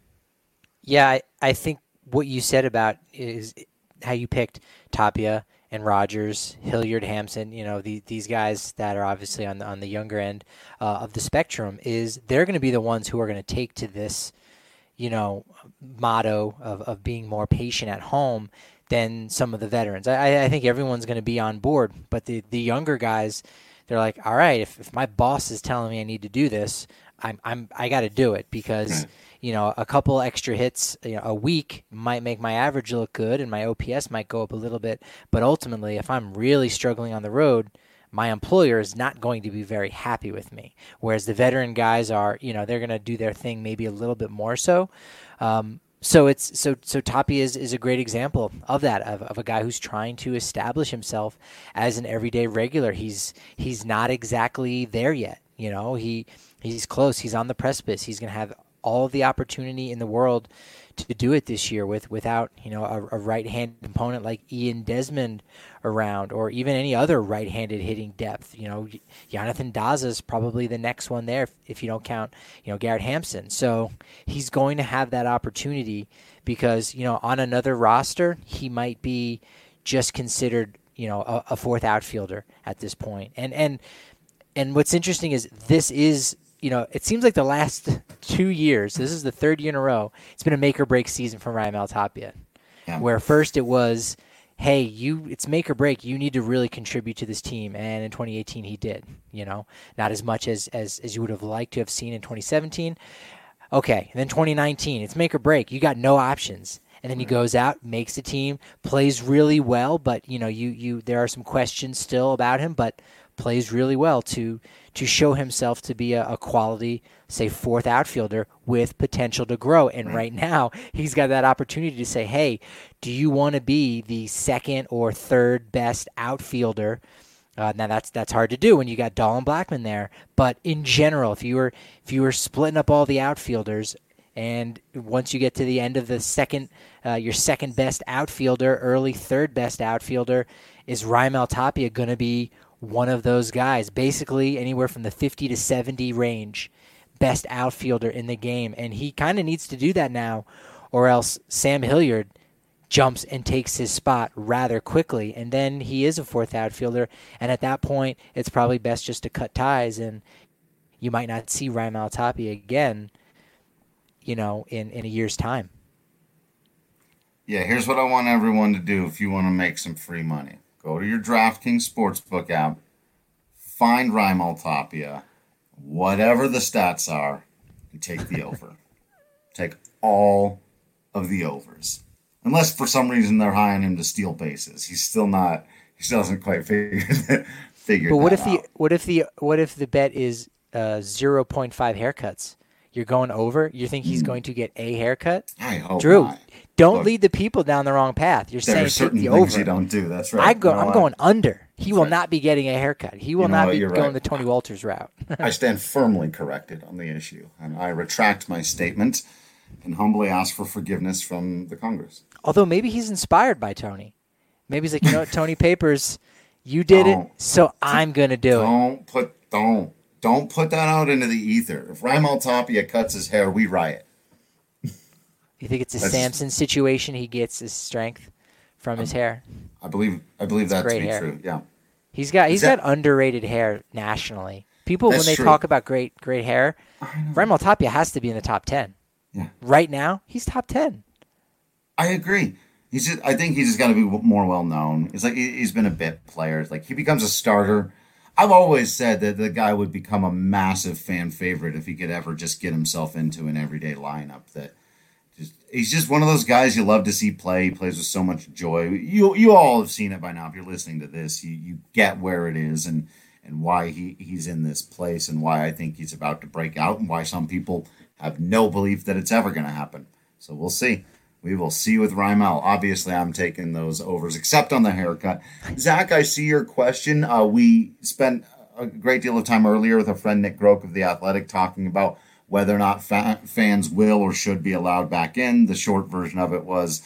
Yeah, I, I think what you said about is how you picked Tapia and Rodgers, Hilliard, Hampson, you know, the, these guys that are obviously on the, on the younger end uh, of the spectrum, is they're going to be the ones who are going to take to this, you know, motto of, of being more patient at home than some of the veterans. I, I think everyone's going to be on board, but the, the younger guys, they're like, all right, if, if my boss is telling me I need to do this, I'm I'm I got to do it because, you know, a couple extra hits, you know, a week might make my average look good and my O P S might go up a little bit. But ultimately, if I'm really struggling on the road, my employer is not going to be very happy with me. Whereas the veteran guys are, you know, they're going to do their thing maybe a little bit more so. Um, so it's so so Tapia is, is a great example of that, of, of a guy who's trying to establish himself as an everyday regular. He's he's not exactly there yet. You know, he he's close. He's on the precipice. He's going to have all of the opportunity in the world to do it this year with without, you know, a, a right-handed opponent like Ian Desmond around, or even any other right-handed hitting depth. You know, Jonathan Daza is probably the next one there if, if you don't count, you know, Garrett Hampson. So he's going to have that opportunity because, you know, on another roster, he might be just considered, you know, a, a fourth outfielder at this point. And and and what's interesting is this is, you know, it seems like the last two years, this is the third year in a row, it's been a make or break season for Raimel Tapia. Yeah. Where first it was, hey, you, it's make or break. You need to really contribute to this team. And in twenty eighteen, he did, you know, not as much as, as, as you would have liked to have seen in twenty seventeen. Okay. And then twenty nineteen, it's make or break. You got no options. And then he goes out, makes the team, plays really well. But, you know, you, you, there are some questions still about him, but plays really well to to show himself to be a, a quality, say, fourth outfielder with potential to grow. And right now, he's got that opportunity to say, hey, do you want to be the second or third best outfielder Uh, now that's that's hard to do when you got Dahl and Blackman there. But in general, if you were if you were splitting up all the outfielders, and once you get to the end of the second, uh, your second best outfielder, early third best outfielder, is Raimel Tapia going to be one of those guys? Basically, anywhere from the fifty to seventy range, best outfielder in the game, and he kind of needs to do that now, or else Sam Hilliard jumps and takes his spot rather quickly, and then he is a fourth outfielder, and at that point, it's probably best just to cut ties, and you might not see Raimel Tapia again, you know, in, in a year's time. Yeah, here's what I want everyone to do if you want to make some free money. Go to your DraftKings Sportsbook app, find Raimel Tapia, whatever the stats are, and take the over. Take all of the overs. Unless for some reason they're high on him to steal bases. He's still not, he still hasn't quite figured, figured But what that if the out. what if the what if the bet is uh, zero point five haircuts? You're going over? You think he's Hmm. going to get a haircut? I hope Drew, not. don't Look, lead the people down the wrong path. You're There saying are certain take the things over. you don't do. That's right. I go. You know I'm what? going under. He That's will right. not be getting a haircut. He will You know not what? be You're going right. the Tony Walters route. I stand firmly corrected on the issue, and I retract my statement and humbly ask for forgiveness from the Congress. Although maybe he's inspired by Tony. Maybe he's like, you know what, Tony Papers, you did Don't. it, so I'm gonna do it. Don't put don't don't put that out into the ether. If Raimel Tapia cuts his hair, we riot. You think it's a That's- Samson situation? He gets his strength from his hair. I believe I believe that to great be hair. true. Yeah. He's got he's That- got underrated hair nationally. People That's when they true. talk about great great hair, Raimel Tapia has to be in the top ten. Yeah. Right now, he's top ten. I agree. He's just, I think he's just got to be more well known. It's like he- he's been a bit player. It's like he becomes a starter. I've always said that the guy would become a massive fan favorite if he could ever just get himself into an everyday lineup. That just he's just one of those guys you love to see play. He plays with so much joy. You you all have seen it by now. If you're listening to this, you you get where it is and and why he, he's in this place and why I think he's about to break out and why some people have no belief that it's ever going to happen. So we'll see. We will see with Raimel. Obviously, I'm taking those overs, except on the haircut. Zach, I see your question. Uh, we spent a great deal of time earlier with our friend Nick Groke of The Athletic talking about whether or not fa- fans will or should be allowed back in. The short version of it was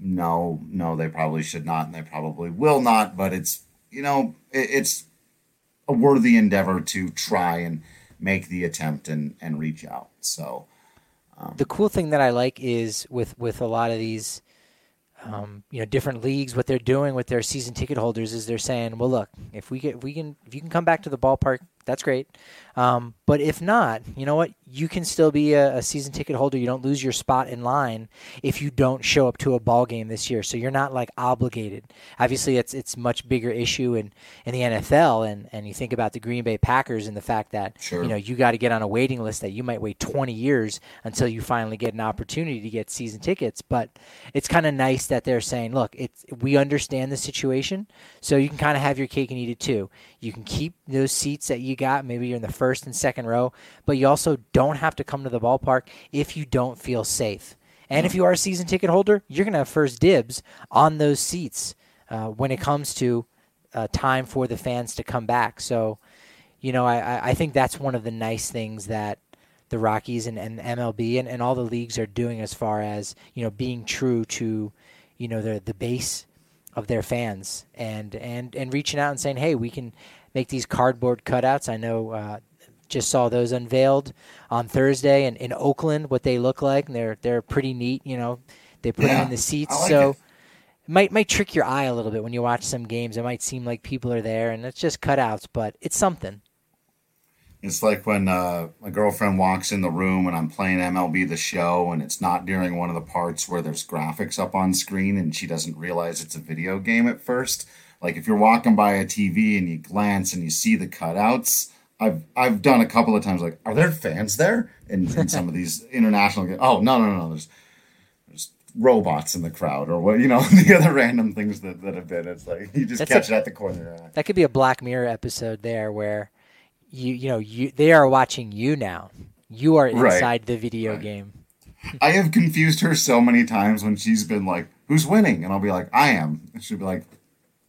no, no, they probably should not, and they probably will not. But it's, you know, it, it's a worthy endeavor to try and make the attempt and, and reach out. So The cool thing that I like is with, with a lot of these, um, you know, different leagues, what they're doing with their season ticket holders is they're saying, well, look, if we get, if we can, if you can come back to the ballpark, that's great. Um, but if not, you know what? You can still be a, a season ticket holder. You don't lose your spot in line if you don't show up to a ball game this year. So you're not like obligated. Obviously, it's it's much bigger issue in, in the N F L, and, and you think about the Green Bay Packers and the fact that Sure. you know you got to get on a waiting list that you might wait twenty years until you finally get an opportunity to get season tickets. But it's kind of nice that they're saying, look, it's we understand the situation, so you can kind of have your cake and eat it too. You can keep those seats that you got. Maybe you're in the first and second row, but you also don't have to come to the ballpark if you don't feel safe. And if you are a season ticket holder, you're going to have first dibs on those seats uh, when it comes to uh, time for the fans to come back. So, you know, I, I think that's one of the nice things that the Rockies and, and M L B and, and all the leagues are doing as far as, you know, being true to, you know, the the base of their fans and, and, and reaching out and saying, hey, we can make these cardboard cutouts. I know uh, just saw those unveiled on Thursday in, in Oakland, what they look like. And they're they're pretty neat. You know, they put them Yeah, in the seats. I like so it. it might, might trick your eye a little bit when you watch some games. It might seem like people are there and it's just cutouts, but it's something. It's like when uh, my girlfriend walks in the room and I'm playing M L B The Show and it's not during one of the parts where there's graphics up on screen and she doesn't realize it's a video game at first. Like if you're walking by a T V and you glance and you see the cutouts, I've I've done a couple of times like, are there fans there? In, in some of these international games. Oh, no, no, no, there's there's robots in the crowd or what, you know, the other random things that, that have been. It's like you just That's catch a- it at the corner. of your eye. That could be a Black Mirror episode there where you you know you they are watching you now. You are Right. inside the video Right. game. I have confused her so many times when she's been like, who's winning? And I'll be like, I am. And she'll be like,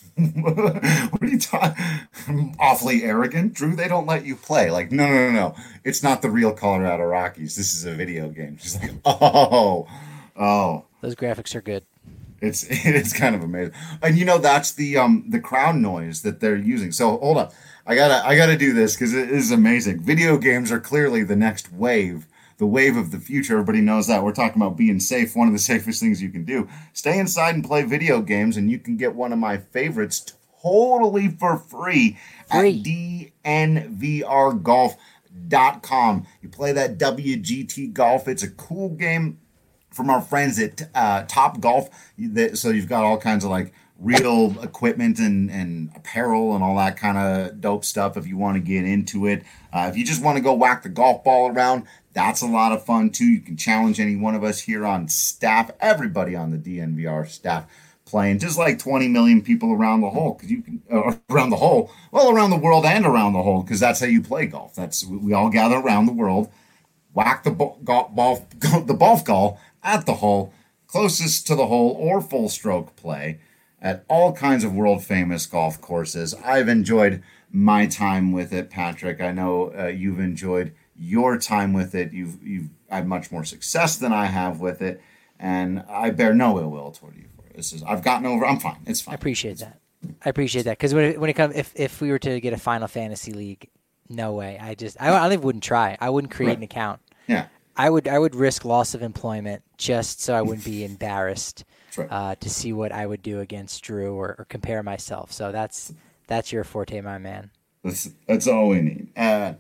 What are you talking? Awfully arrogant, Drew. They don't let you play. Like, no, no, no, no. It's not the real Colorado Rockies. This is a video game. She's like, oh, oh. Those graphics are good. It's it's kind of amazing. And you know that's the um the crowd noise that they're using. So hold on, I gotta I gotta do this because it is amazing. Video games are clearly the next wave. The wave of the future. Everybody knows that. We're talking about being safe. One of the safest things you can do. Stay inside and play video games, and you can get one of my favorites totally for free, free. at D N V R golf dot com. You play that W G T Golf. It's a cool game from our friends at uh, Top Golf. So you've got all kinds of like real equipment and, and apparel and all that kind of dope stuff if you want to get into it. Uh, if you just want to go whack the golf ball around, that's a lot of fun too. You can challenge any one of us here on staff, everybody on the D N V R staff playing, just like twenty million people around the hole, because you can uh, around the hole, well, around the world and around the hole, because that's how you play golf. That's we all gather around the world, whack the ball, golf, ball the golf ball at the hole, closest to the hole, or full stroke play at all kinds of world famous golf courses. I've enjoyed my time with it, Patrick. I know uh, you've enjoyed your time with it. You've you've had much more success than I have with it, and I bear no ill will toward you for it. This is I've gotten over. I'm fine. It's fine. I appreciate that. I appreciate that because when it, when it comes, if if we were to get a Final Fantasy League, no way. I just I, I wouldn't try. I wouldn't create right. an account. Yeah. I would I would risk loss of employment just so I wouldn't be embarrassed right. uh, to see what I would do against Drew or, or compare myself. So that's that's your forte, my man. That's that's all we need. Uh,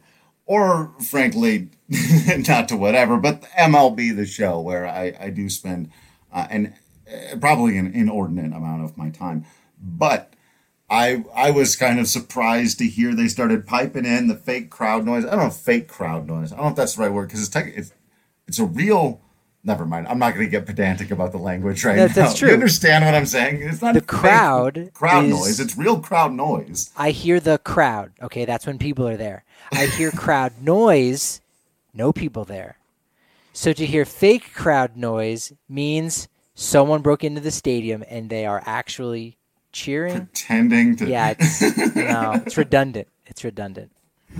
or frankly, not to whatever, but M L B The Show, where I, I do spend uh, an uh, probably an inordinate amount of my time. But I I was kind of surprised to hear they started piping in the fake crowd noise. I don't know, fake crowd noise. I don't know if that's the right word because it's tech, it's it's a real. Never mind. I'm not going to get pedantic about the language right that's, now. That's true. You understand what I'm saying? It's not the crowd crowd is, noise. It's real crowd noise. I hear the crowd. Okay, that's when people are there. I hear crowd noise. No people there. So to hear fake crowd noise means someone broke into the stadium and they are actually cheering, pretending to. Yeah, it's, no, it's redundant. It's redundant.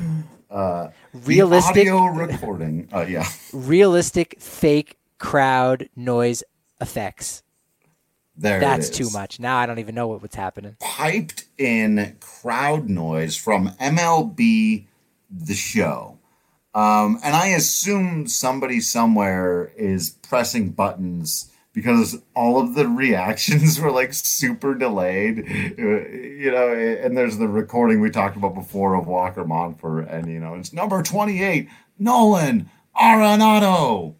Uh, realistic audio recording. Uh, yeah. Realistic fake crowd noise effects. There That's it is. too much. Now I don't even know what, what's happening. Piped in crowd noise from M L B The Show. Um, and I assume somebody somewhere is pressing buttons because all of the reactions were like super delayed, you know, and there's the recording we talked about before of Walker Montfort, and, you know, it's number twenty-eight, Nolan Arenado.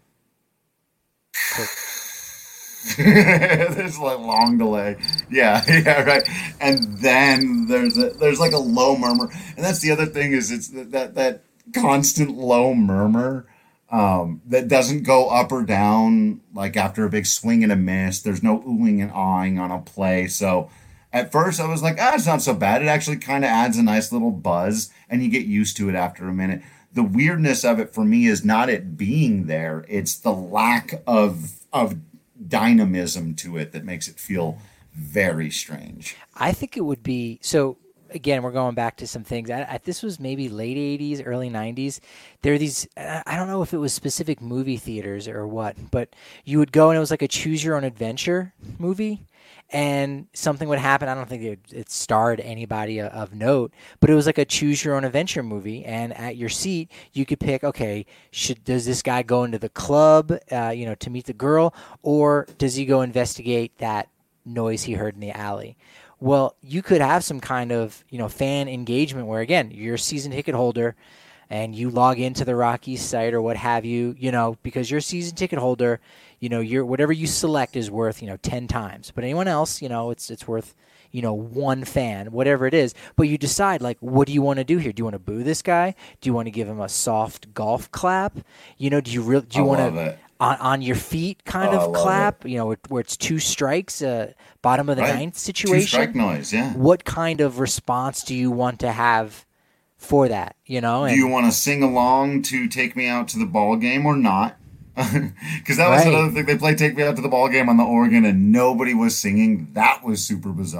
There's like long delay. Yeah, yeah, right. And then there's a, there's like a low murmur. And that's the other thing is it's that, that constant low murmur. Um, that doesn't go up or down like after a big swing and a miss. There's no oohing and awing on a play. So at first I was like, ah, it's not so bad. It actually kind of adds a nice little buzz and you get used to it after a minute. The weirdness of it for me is not it being there. It's the lack of, of dynamism to it that makes it feel very strange. I think it would be, so again, we're going back to some things. I, I, this was maybe late eighties, early nineties. There are these, I don't know if it was specific movie theaters or what, but you would go and it was like a choose your own adventure movie and something would happen. I don't think it, it starred anybody of note, but it was like a choose your own adventure movie. And at your seat, you could pick, okay, should does this guy go into the club, uh, you know, to meet the girl, or does he go investigate that noise he heard in the alley? Well, you could have some kind of, you know, fan engagement where, again, you're a season ticket holder and you log into the Rockies site or what have you, you know, because you're a season ticket holder, you know, you're, whatever you select is worth, you know, ten times. But anyone else, you know, it's it's worth, you know, one fan, whatever it is. But you decide, like, what do you want to do here? Do you want to boo this guy? Do you want to give him a soft golf clap? You know, do you really, do you want to... On, on your feet kind oh, of clap, it. you know, where, where it's two strikes, uh, bottom of the right. ninth situation. Two strike noise, yeah. What kind of response do you want to have for that, you know? And, do you want to sing along to Take Me Out to the Ball Game or not? Because that was right. another thing. They played Take Me Out to the Ball Game on the organ and nobody was singing. That was super bizarre.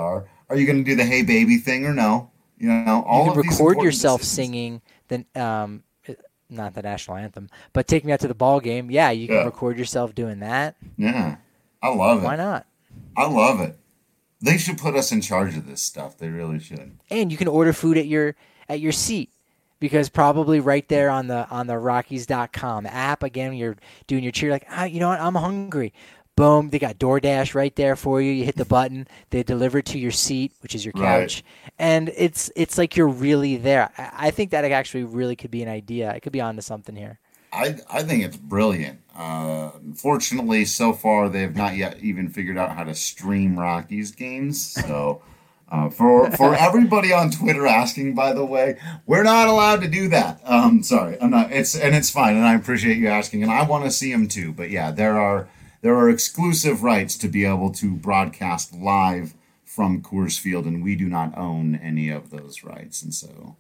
Are you going to do the "Hey Baby" thing or no? You know, all you of can these record important yourself decisions. singing the um, not the national anthem, but "Take Me Out to the Ball Game." Yeah, you can Yeah. record yourself doing that. Yeah, I love it. Why not? I love it. They should put us in charge of this stuff. They really should. And you can order food at your at your seat, because probably right there on the on the Rockies dot com app, again, you're doing your cheer like, ah, you know what, I'm hungry. Boom, they got DoorDash right there for you. You hit the button, they deliver it to your seat, which is your couch, Right. and it's it's like you're really there. I, I think that actually really could be an idea. I could be onto something here. I I think it's brilliant. Uh, unfortunately, so far they have not yet even figured out how to stream Rockies games. So, uh, for for everybody on Twitter asking, by the way, we're not allowed to do that. Um, sorry, I'm not. It's and it's fine, and I appreciate you asking, and I want to see them too. But yeah, there are there are exclusive rights to be able to broadcast live from Coors Field, and we do not own any of those rights, and so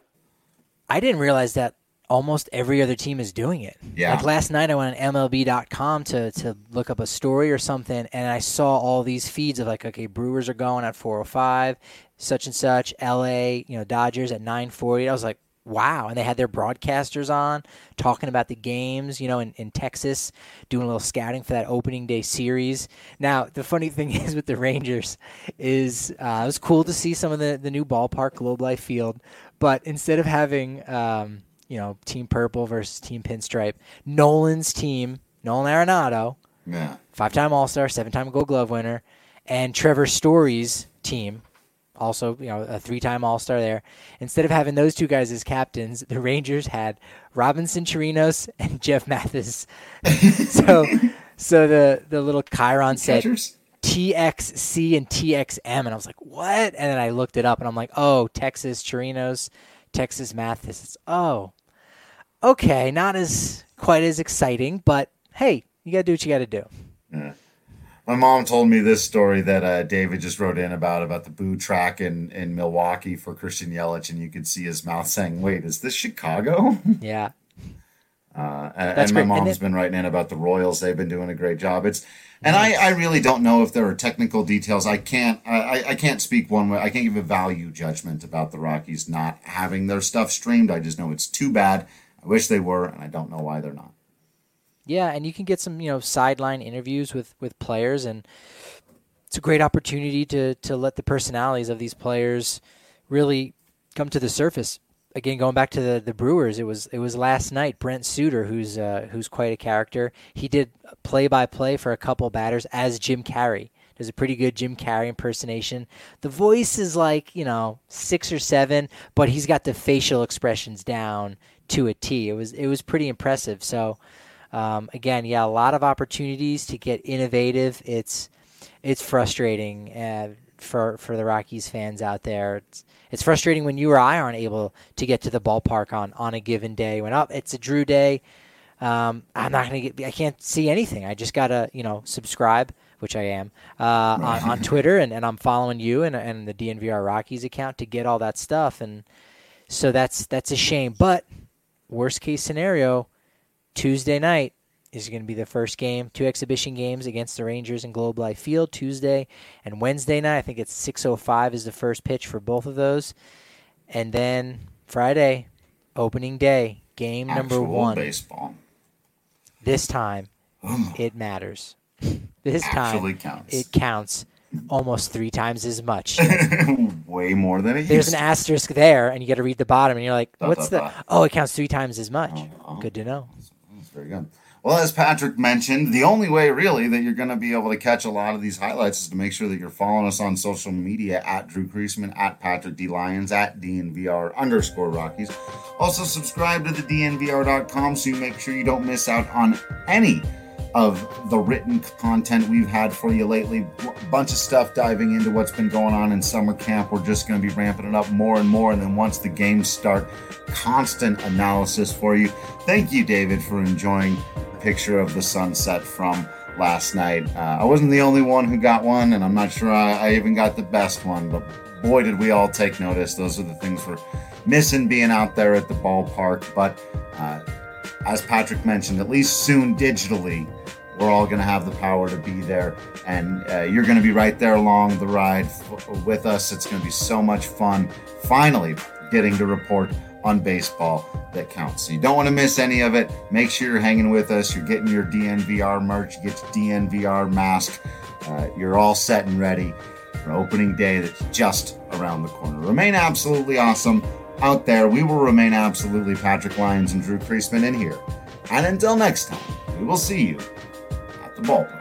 I didn't realize that almost every other team is doing it. Yeah. Like last night I went on M L B dot com to, to look up a story or something, and I saw all these feeds of like, okay, Brewers are going at four oh five, such and such, L A, you know, Dodgers at nine forty. I was like, wow. And they had their broadcasters on talking about the games, you know, in, in Texas, doing a little scouting for that opening day series. Now, the funny thing is with the Rangers is uh, it was cool to see some of the, the new ballpark, Globe Life Field, but instead of having um, – you know, Team Purple versus Team Pinstripe, Nolan's team, Nolan Arenado, yeah. five-time All-Star, seven-time Gold Glove winner, and Trevor Story's team, also, you know, a three-time All-Star there. Instead of having those two guys as captains, the Rangers had Robinson Chirinos and Jeff Mathis. so, so the the little Chiron said Catchers? T X C and T X M, and I was like, what? And then I looked it up, and I'm like, oh, Texas Chirinos, Texas Mathis. It's, oh. Okay, not as quite as exciting, but hey, you gotta do what you gotta do. Yeah. My mom told me this story that uh, David just wrote in about about the boo track in, in Milwaukee for Christian Yelich, and you could see his mouth saying, "Wait, is this Chicago?" Yeah, uh, and, That's and my great. And mom's it- been writing in about the Royals; they've been doing a great job. It's and I, I really don't know if there are technical details. I can't I, I can't speak one way. I can't give a value judgment about the Rockies not having their stuff streamed. I just know it's too bad. I wish they were, and I don't know why they're not. yeah, and you can get some, you know, sideline interviews with, with players, and it's a great opportunity to to let the personalities of these players really come to the surface. Again, going back to the, the Brewers, it was it was last night. Brent Suter, who's uh, who's quite a character, he did play by play for a couple batters as Jim Carrey. There's a pretty good Jim Carrey impersonation. The voice is like, you know, six or seven, but he's got the facial expressions down to a T. It was it was pretty impressive. So um, again, yeah, a lot of opportunities to get innovative. It's it's frustrating uh, for for the Rockies fans out there. It's it's frustrating when you or I aren't able to get to the ballpark on, on a given day. When oh, it's a Drew day, um, I'm not gonna get. I can't see anything. I just gotta you know subscribe, which I am uh, on, on Twitter, and, and I'm following you and and the D N V R Rockies account to get all that stuff. And so that's that's a shame, but. Worst case scenario, Tuesday night is going to be the first game, two exhibition games against the Rangers in Globe Life Field, Tuesday and Wednesday night. I think it's six oh five is the first pitch for both of those. And then Friday, opening day, game number Actual one. baseball. This time, it matters. This Actually time, counts. it counts almost three times as much. Way more than it There's used an to. asterisk there, and you got to read the bottom, and you're like, Dot, what's dot, the? dot. Oh, it counts three times as much. oh. Good to know. That's very good. Well, as Patrick mentioned, the only way really that you're going to be able to catch a lot of these highlights is to make sure that you're following us on social media at Drew Creasman, at Patrick D. Lyons, at D N V R underscore Rockies. Also, subscribe to the D N V R dot com so you make sure you don't miss out on any of the written content we've had for you lately. A bunch of stuff diving into what's been going on in summer camp. We're just going to be ramping it up more and more. And then once the games start, constant analysis for you. Thank you, David, for enjoying a picture of the sunset from last night. Uh, I wasn't the only one who got one, and I'm not sure I, I even got the best one, but boy, did we all take notice. Those are the things we're missing being out there at the ballpark. But uh, as Patrick mentioned, at least soon digitally, we're all going to have the power to be there, and uh, you're going to be right there along the ride f- with us. It's going to be so much fun, finally getting to report on baseball that counts. So you don't want to miss any of it. Make sure you're hanging with us. You're getting your D N V R merch. You get your D N V R mask. Uh, you're all set and ready for opening day that's just around the corner. Remain absolutely awesome out there. We will remain absolutely Patrick Lyons and Drew Creasman in here. And until next time, we will see you at the ballpark.